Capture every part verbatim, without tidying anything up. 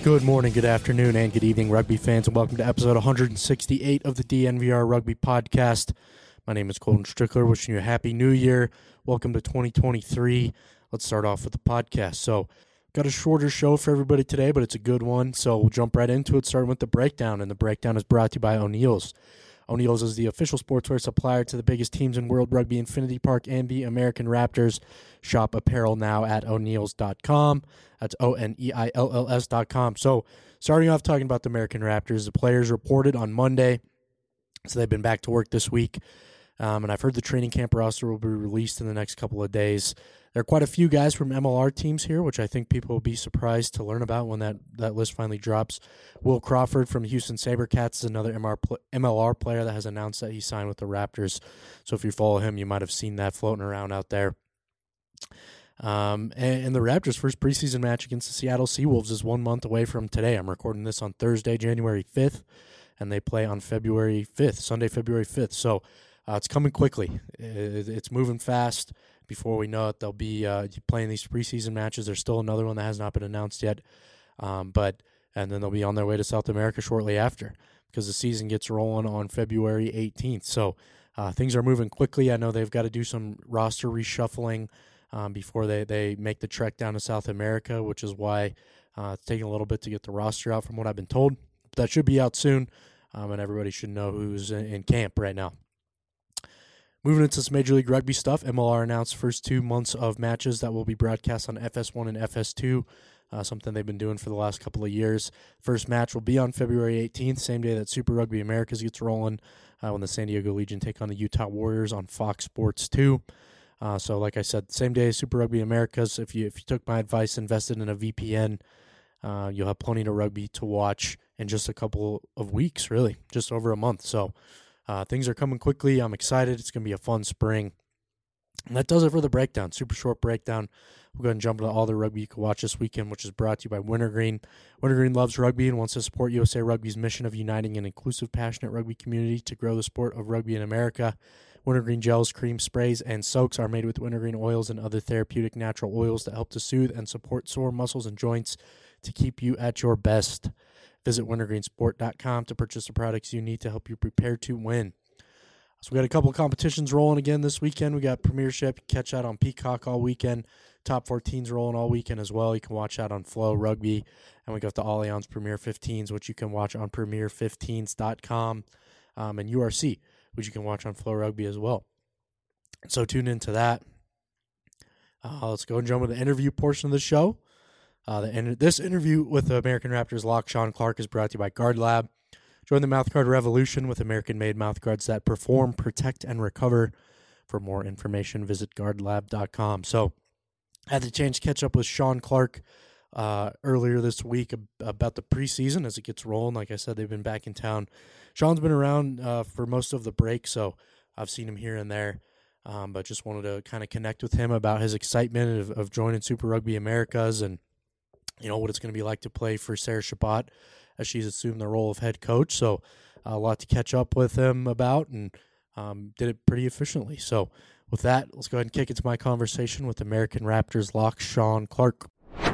Good morning, good afternoon, and good evening, rugby fans, and welcome to episode one hundred sixty-eight of the D N V R Rugby Podcast. My name is Colton Strickler, wishing you a happy new year. Welcome to twenty twenty-three. Let's start off with the podcast. So, got a shorter show for everybody today, but it's a good one, so we'll jump right into it, starting with the breakdown, and the breakdown is brought to you by O'Neill's. O'Neill's is the official sportswear supplier to the biggest teams in World Rugby, Infinity Park, and the American Raptors. Shop apparel now at o'neills dot com. That's O N E I L L S dot com. So, starting off talking about the American Raptors, the players reported on Monday, so they've been back to work this week. Um, and I've heard the training camp roster will be released in the next couple of days. There are quite a few guys from M L R teams here, which I think people will be surprised to learn about when that, that list finally drops. Will Crawford from Houston SaberCats is another M L R player that has announced that he signed with the Raptors. So if you follow him, you might have seen that floating around out there. Um, and, and the Raptors' first preseason match against the Seattle Seawolves is one month away from today. I'm recording this on Thursday, January fifth, and they play on February fifth, Sunday, February fifth. So uh, it's coming quickly. It, it's moving fast. Before we know it, they'll be uh, playing these preseason matches. There's still another one that has not been announced yet, um, but and then they'll be on their way to South America shortly after because the season gets rolling on February eighteenth. So uh, things are moving quickly. I know they've got to do some roster reshuffling um, before they, they make the trek down to South America, which is why uh, it's taking a little bit to get the roster out from what I've been told. But that should be out soon, um, and everybody should know who's in, in camp right now. Moving into some Major League Rugby stuff, M L R announced first two months of matches that will be broadcast on F S one and F S two, uh, something they've been doing for the last couple of years. First match will be on February eighteenth, same day that Super Rugby Americas gets rolling, uh, when the San Diego Legion take on the Utah Warriors on Fox Sports two. Uh, so like I said, same day as Super Rugby Americas. If you if you took my advice, invested in a V P N, uh, you'll have plenty of rugby to watch in just a couple of weeks, really, just over a month. So Uh, things are coming quickly. I'm excited. It's going to be a fun spring. And that does it for the breakdown. Super short breakdown. We'll go ahead and jump into all the rugby you can watch this weekend, which is brought to you by Wintergreen. Wintergreen loves rugby and wants to support U S A Rugby's mission of uniting an inclusive, passionate rugby community to grow the sport of rugby in America. Wintergreen gels, cream, sprays, and soaks are made with wintergreen oils and other therapeutic natural oils that help to soothe and support sore muscles and joints to keep you at your best. Visit wintergreen sport dot com to purchase the products you need to help you prepare to win. So we got a couple of competitions rolling again this weekend. We got Premiership. You can catch that on Peacock all weekend. Top fourteens rolling all weekend as well. You can watch that on Flow Rugby. And we got the Allianz Premier fifteens, which you can watch on premier fifteens dot com, um, and U R C, which you can watch on Flow Rugby as well. So tune into that. Uh, let's go and jump into the interview portion of the show. Uh, the, and this interview with the American Raptors lock Shawn Clarke is brought to you by Guard Lab. Join the mouthguard revolution with American-made mouthguards that perform, protect, and recover. For more information, visit guard lab dot com. So I had the chance to catch up with Shawn Clarke uh, earlier this week about the preseason as it gets rolling. Like I said, they've been back in town. Shawn's been around uh, for most of the break, so I've seen him here and there. Um, but just wanted to kind of connect with him about his excitement of, of joining Super Rugby Americas and you know, what it's going to be like to play for Sarah Chabot as she's assumed the role of head coach. So uh, a lot to catch up with him about and um, did it pretty efficiently. So with that, let's go ahead and kick into my conversation with American Raptors lock Shawn Clarke.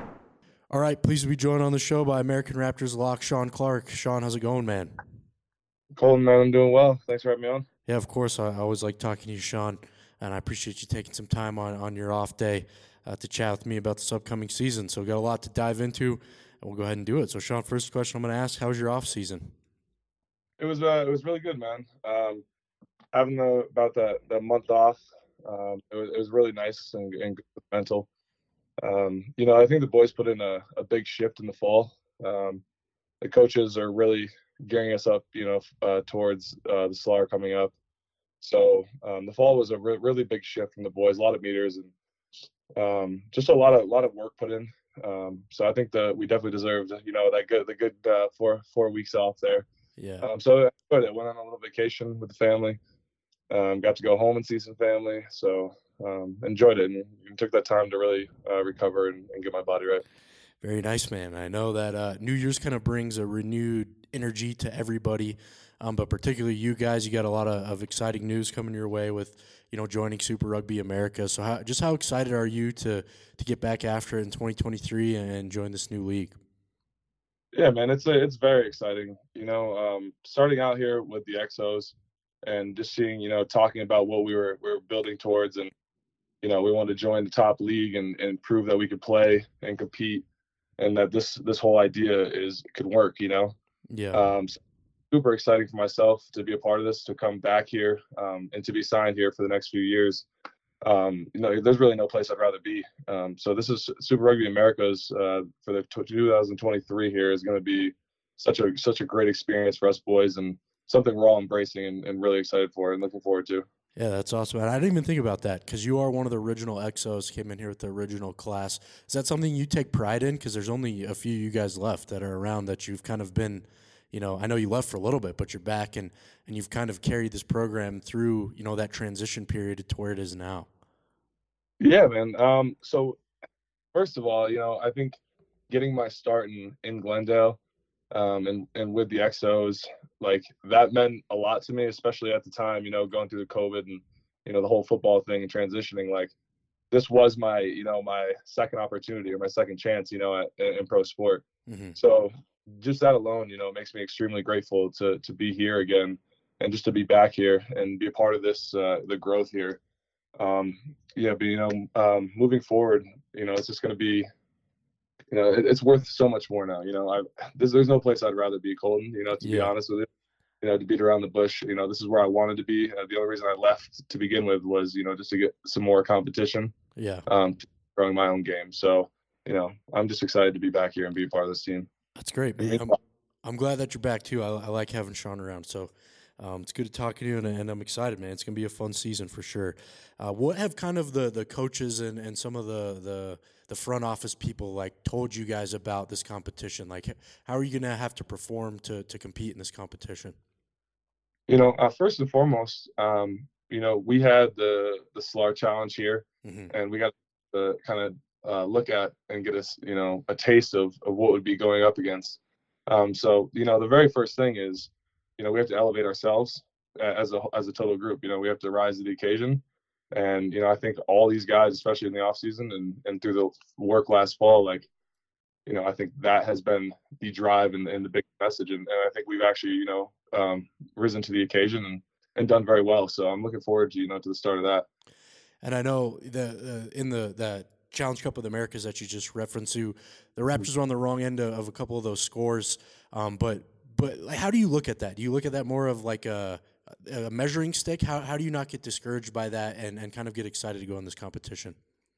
All right, pleased to be joined on the show by American Raptors lock Shawn Clarke. Shawn, how's it going, man? Colton, man, I'm doing well. Thanks for having me on. Yeah, of course. I, I always like talking to you, Shawn, and I appreciate you taking some time on, on your off day Uh, to chat with me about this upcoming season. So we've got a lot to dive into, and we'll go ahead and do it. So, Shawn, first question I'm going to ask, how was your off season? It was uh, it was really good, man. Um, having the, about that, that month off, um, it was it was really nice and, and good mental. Um, you know, I think the boys put in a, a big shift in the fall. Um, the coaches are really gearing us up, you know, uh, towards uh, the Slar coming up. So um, the fall was a re- really big shift from the boys, a lot of meters and um, just a lot of lot of work put in. Um, so I think that we definitely deserved, you know, that good the good uh, four four weeks off there. Yeah. Um, so I enjoyed it. Went on a little vacation with the family. Um, got to go home and see some family. So um, enjoyed it and, and took that time to really uh, recover and, and get my body right. Very nice, man. I know that uh, New Year's kind of brings a renewed energy to everybody, um, but particularly you guys. You got a lot of, of exciting news coming your way with, you know, joining Super Rugby America. So how, just how excited are you to to get back after it in twenty twenty-three and join this new league? Yeah, man, it's a, it's very exciting. You know, um, starting out here with the X Os and just seeing, you know, talking about what we were we were building towards, and you know, we wanted to join the top league and and prove that we could play and compete, and that this this whole idea is could work. You know, Yeah. um, so super exciting for myself to be a part of this, to come back here, um, and to be signed here for the next few years. Um, you know, there's really no place I'd rather be. Um, so this is Super Rugby Americas uh, for the two thousand twenty-three here is going to be such a such a great experience for us boys, and something we're all embracing and, and really excited for and looking forward to. Yeah, that's awesome. And I didn't even think about that because you are one of the original X Os, came in here with the original class. Is that something you take pride in? Because there's only a few you guys left that are around that you've kind of been, you know, I know you left for a little bit, but you're back and, and you've kind of carried this program through, you know, that transition period to where it is now. Yeah, man. Um, so first of all, you know, I think getting my start in, in Glendale um, and, and with the X Os, like that meant a lot to me, especially at the time, you know, going through the COVID and, you know, the whole football thing and transitioning. Like this was my, you know, my second opportunity or my second chance, you know, at, in pro sport. Mm-hmm. So just that alone, you know, makes me extremely grateful to to be here again and just to be back here and be a part of this, uh, the growth here. Um, yeah, but you know, um, moving forward, you know, it's just going to be, you know, it, it's worth so much more now. You know, I there's there's no place I'd rather be, Colton. You know, to be Yeah. honest with you, you know, to beat around the bush. You know, this is where I wanted to be. Uh, the only reason I left to begin with was, you know, just to get some more competition. Yeah. Um, growing my own game. So, you know, I'm just excited to be back here and be a part of this team. That's great, man. I'm, I'm glad that you're back too. I, I like having Sean around. So um, it's good to talk to you, and, and I'm excited, man. It's going to be a fun season for sure. Uh, what have kind of the, the coaches and, and some of the, the the front office people like told you guys about this competition? Like, how are you going to have to perform to to compete in this competition? You know, uh, first and foremost, um, you know, we had the the S L A R challenge here, Mm-hmm. and we got to kind of uh, look at and get us, you know, a taste of, of what would be going up against. Um, so, you know, the very first thing is, you know, we have to elevate ourselves as a as a total group. You know, we have to rise to the occasion. And, you know, I think all these guys, especially in the off season and, and through the work last fall, like, you know, I think that has been the drive and, and the big message. And, and I think we've actually, you know, um, risen to the occasion and, and done very well. So I'm looking forward to, you know, to the start of that. And I know the uh, in the that Challenge Cup of the Americas that you just referenced to, the Raptors were on the wrong end of, of a couple of those scores. Um, but but like, how do you look at that? Do you look at that more of like a, a measuring stick? How how do you not get discouraged by that and, and kind of get excited to go in this competition?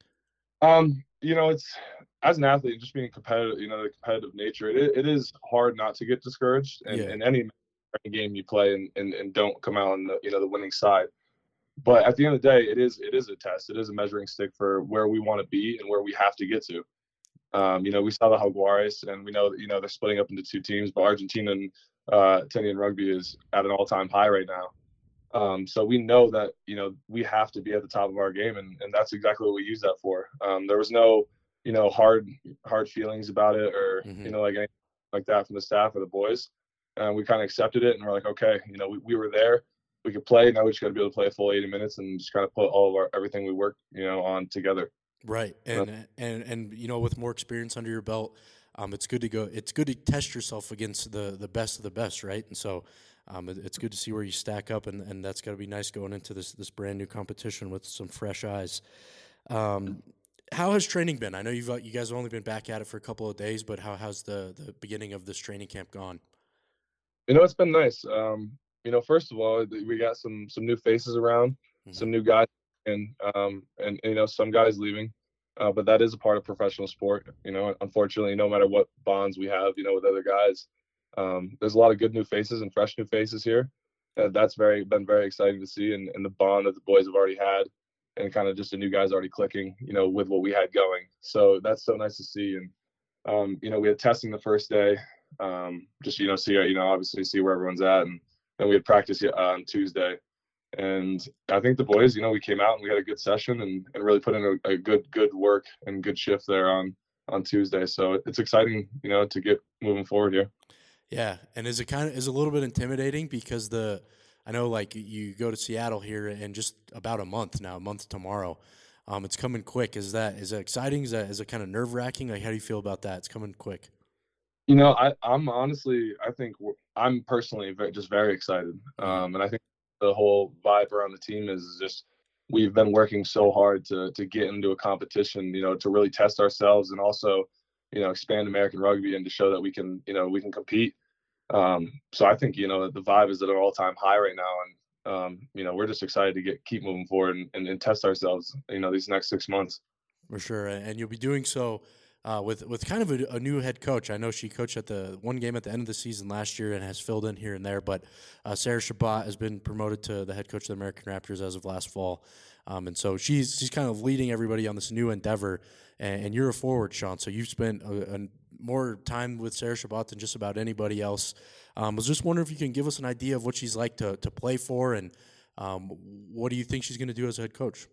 Um, you know, it's as an athlete, just being competitive, you know, the competitive nature, it, it is hard not to get discouraged in, Yeah. in any, any game you play and, and, and don't come out on the, you know, the winning side. But at the end of the day, it is it is a test. It is a measuring stick for where we want to be and where we have to get to. Um, you know, we saw the Jaguares, and we know that, you know, they're splitting up into two teams, but Argentina and uh, Tenian rugby is at an all-time high right now. Um, so we know that, you know, we have to be at the top of our game, and, and that's exactly what we use that for. Um, there was no, you know, hard hard feelings about it or, Mm-hmm. you know, like anything like that from the staff or the boys. And we kind of accepted it, and we're like, okay, you know, we, we were there. We could play. Now we just got to be able to play a full eighty minutes and just kind of put all of our everything we work, you know, on together. Right, and uh, and and you know, with more experience under your belt, um, it's good to go. It's good to test yourself against the the best of the best, right? And so, um, it, it's good to see where you stack up, and, and that's got to be nice going into this this brand new competition with some fresh eyes. Um, how has training been? I know you've you guys have only been back at it for a couple of days, but how how's the the beginning of this training camp gone? You know, it's been nice. Um, you know, first of all, we got some some new faces around, Mm-hmm. some new guys, and um, and you know, some guys leaving. Uh, but that is a part of professional sport. You know, unfortunately, no matter what bonds we have, you know, with other guys, um, there's a lot of good new faces and fresh new faces here. Uh, that's very been very exciting to see, and, and the bond that the boys have already had, and kind of just the new guys already clicking, you know, with what we had going. So that's so nice to see. And um, you know, we had testing the first day, um, just you know, see you know, obviously see where everyone's at, and then we had practice on Tuesday. And I think the boys, you know, we came out and we had a good session and, and really put in a, a good good work and good shift there on on Tuesday. So it's exciting, you know, to get moving forward here. Yeah, and is it kind of is a little bit intimidating because the I know like you go to Seattle here in just about a month now, a month tomorrow. Um, it's coming quick. Is that is that exciting? Is that is it kind of nerve wracking? Like, how do you feel about that? It's coming quick. You know, I, I'm honestly, I think we're- I'm personally very, just very excited. Mhm. Um, and I think the whole vibe around the team is just we've been working so hard to to get into a competition, you know, to really test ourselves and also, you know, expand American rugby and to show that we can, you know, we can compete. Um, so I think, you know, the vibe is at an all time high right now. And, um, you know, we're just excited to get keep moving forward and, and, and test ourselves, you know, these next six months. For sure, a- and you'll be doing so uh, with with kind of a, a new head coach. I know she coached at the one game at the end of the season last year and has filled in here and there. But uh, Sarah Shabbat has been promoted to the head coach of the American Raptors as of last fall, um, and so she's she's kind of leading everybody on this new endeavor. And, and you're a forward, Sean, so you've spent a, a more time with Sarah Shabbat than just about anybody else. I um, was just wondering if you can give us an idea of what she's like to to play for, and um, what do you think she's going to do as a head coach?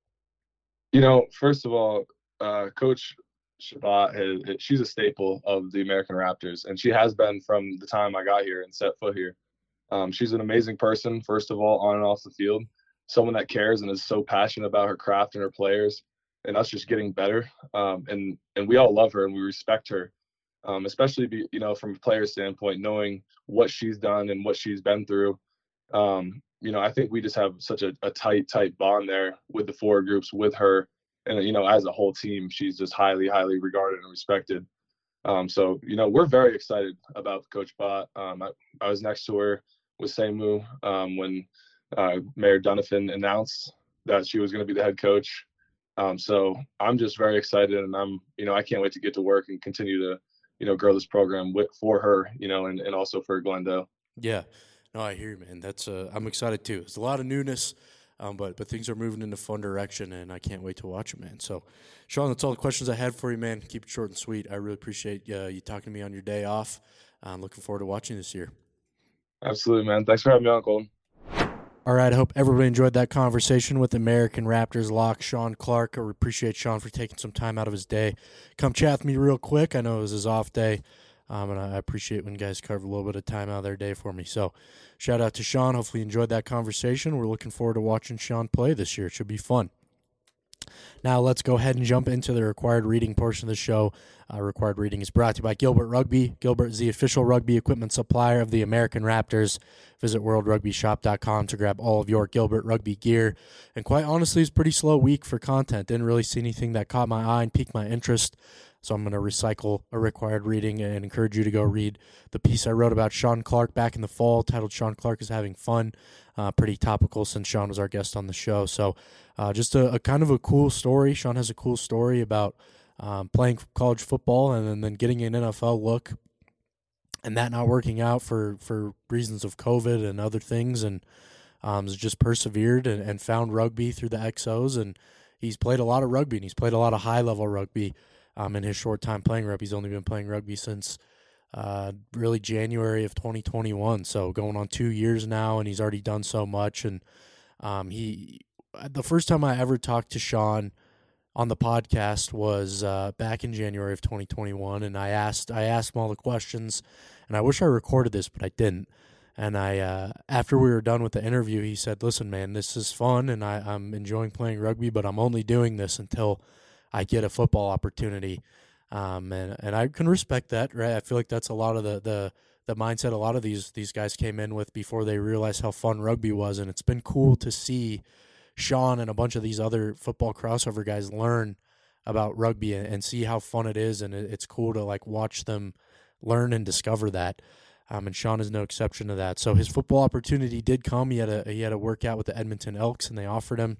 You know, first of all, uh, Coach Shabbat, has, she's a staple of the American Raptors, and she has been from the time I got here and set foot here. Um, she's an amazing person, first of all, on and off the field, someone that cares and is so passionate about her craft and her players and us just getting better. Um, and, and we all love her and we respect her, um, especially, be, you know, from a player standpoint, knowing what she's done and what she's been through. Um, you know, I think we just have such a, a tight, tight bond there with the four groups, with her. And, you know, as a whole team, she's just highly, highly regarded and respected. Um, so, you know, we're very excited about Coach Bott. Um, I, I was next to her with Seimu um, when uh, Mayor Donovan announced that she was going to be the head coach. Um, so I'm just very excited, and I'm, you know, I can't wait to get to work and continue to, you know, grow this program with, for her, you know, and, and also for Glendale. Yeah. No, I hear you, man. That's uh, I'm excited too. It's a lot of newness, um, but but things are moving in a fun direction, and I can't wait to watch it, man. So, Sean, that's all the questions I had for you, man. Keep it short and sweet. I really appreciate uh, you talking to me on your day off. I'm looking forward to watching this year. Absolutely, man. Thanks for having me on, Colton. All right, I hope everybody enjoyed that conversation with American Raptors lock Sean Clark. I appreciate Sean for taking some time out of his day. Come chat with me real quick. I know it was his off day. Um, and I appreciate when guys carve a little bit of time out of their day for me. So shout out to Sean. Hopefully you enjoyed that conversation. We're looking forward to watching Sean play this year. It should be fun. Now let's go ahead and jump into the required reading portion of the show. Uh, required reading is brought to you by Gilbert Rugby. Gilbert is the official rugby equipment supplier of the American Raptors. Visit world rugby shop dot com to grab all of your Gilbert Rugby gear. And quite honestly, it's a pretty slow week for content. Didn't really see anything that caught my eye and piqued my interest. So I'm going to recycle a required reading and encourage you to go read the piece I wrote about Sean Clark back in the fall, titled Sean Clark is Having Fun. Uh, pretty topical since Sean was our guest on the show. So uh, just a, a kind of a cool story. Sean has a cool story about um, playing college football and then, then getting an N F L look and that not working out for, for reasons of COVID and other things. And um, has just persevered and, and found rugby through the X Os. And he's played a lot of rugby and he's played a lot of high-level rugby. Um, in his short time playing rugby. He's only been playing rugby since uh, really January of twenty twenty-one, so going on two years now, and he's already done so much. And um, he, the first time I ever talked to Sean on the podcast was uh, back in January of twenty twenty-one, and I asked I asked him all the questions, and I wish I recorded this, but I didn't. And I, uh, after we were done with the interview, he said, "Listen, man, this is fun, and I, I'm enjoying playing rugby, but I'm only doing this until I get a football opportunity." Um, and, and I can respect that, right? I feel like that's a lot of the, the, the mindset a lot of these, these guys came in with before they realized how fun rugby was. And it's been cool to see Sean and a bunch of these other football crossover guys learn about rugby and, and see how fun it is. And it, it's cool to like watch them learn and discover that. Um, and Sean is no exception to that. So his football opportunity did come. He had a, he had a workout with the Edmonton Elks and they offered him,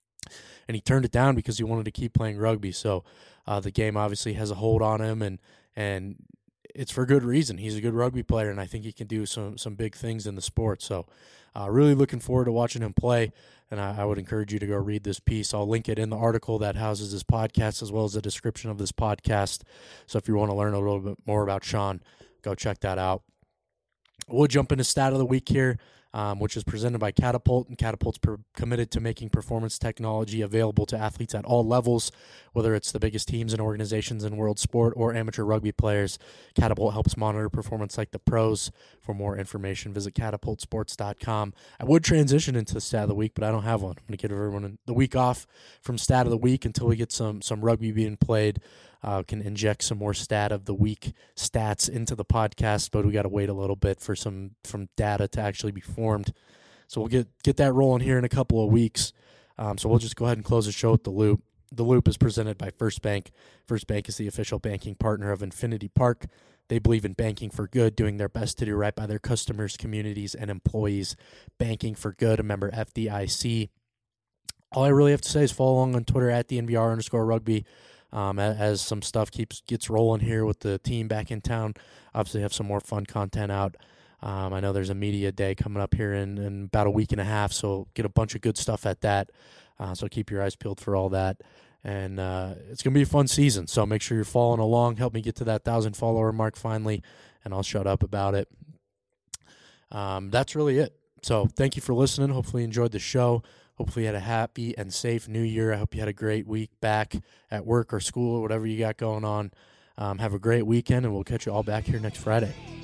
and he turned it down because he wanted to keep playing rugby. So uh, the game obviously has a hold on him, and and it's for good reason. He's a good rugby player, and I think he can do some some big things in the sport. So uh, really looking forward to watching him play, and I, I would encourage you to go read this piece. I'll link it in the article that houses this podcast as well as the description of this podcast. So if you want to learn a little bit more about Sean, go check that out. We'll jump into stat of the week here. Um, which is presented by Catapult, and Catapult's per- committed to making performance technology available to athletes at all levels, whether it's the biggest teams and organizations in world sport or amateur rugby players. Catapult helps monitor performance like the pros. For more information, visit catapult sports dot com. I would transition into the stat of the week, but I don't have one. I'm going to give everyone the week off from stat of the week until we get some some rugby being played. uh, can inject some more stat of the week stats into the podcast, but we got to wait a little bit for some from data to actually be formed. So we'll get get that rolling here in a couple of weeks. Um, so we'll just go ahead and close the show with the Loop. The Loop is presented by First Bank. First Bank is the official banking partner of Infinity Park. They believe in banking for good, doing their best to do right by their customers, communities, and employees. Banking for good, a member F D I C. All I really have to say is follow along on Twitter at the N V R underscore rugby um, as some stuff keeps gets rolling here with the team back in town. Obviously have some more fun content out. Um, I know there's a media day coming up here in, in about a week and a half, so get a bunch of good stuff at that. Uh, so keep your eyes peeled for all that. And uh, it's going to be a fun season, so make sure you're following along. Help me get to that one thousand follower mark finally, and I'll shut up about it. Um, that's really it. So thank you for listening. Hopefully you enjoyed the show. Hopefully you had a happy and safe new year. I hope you had a great week back at work or school or whatever you got going on. Um, have a great weekend, and we'll catch you all back here next Friday.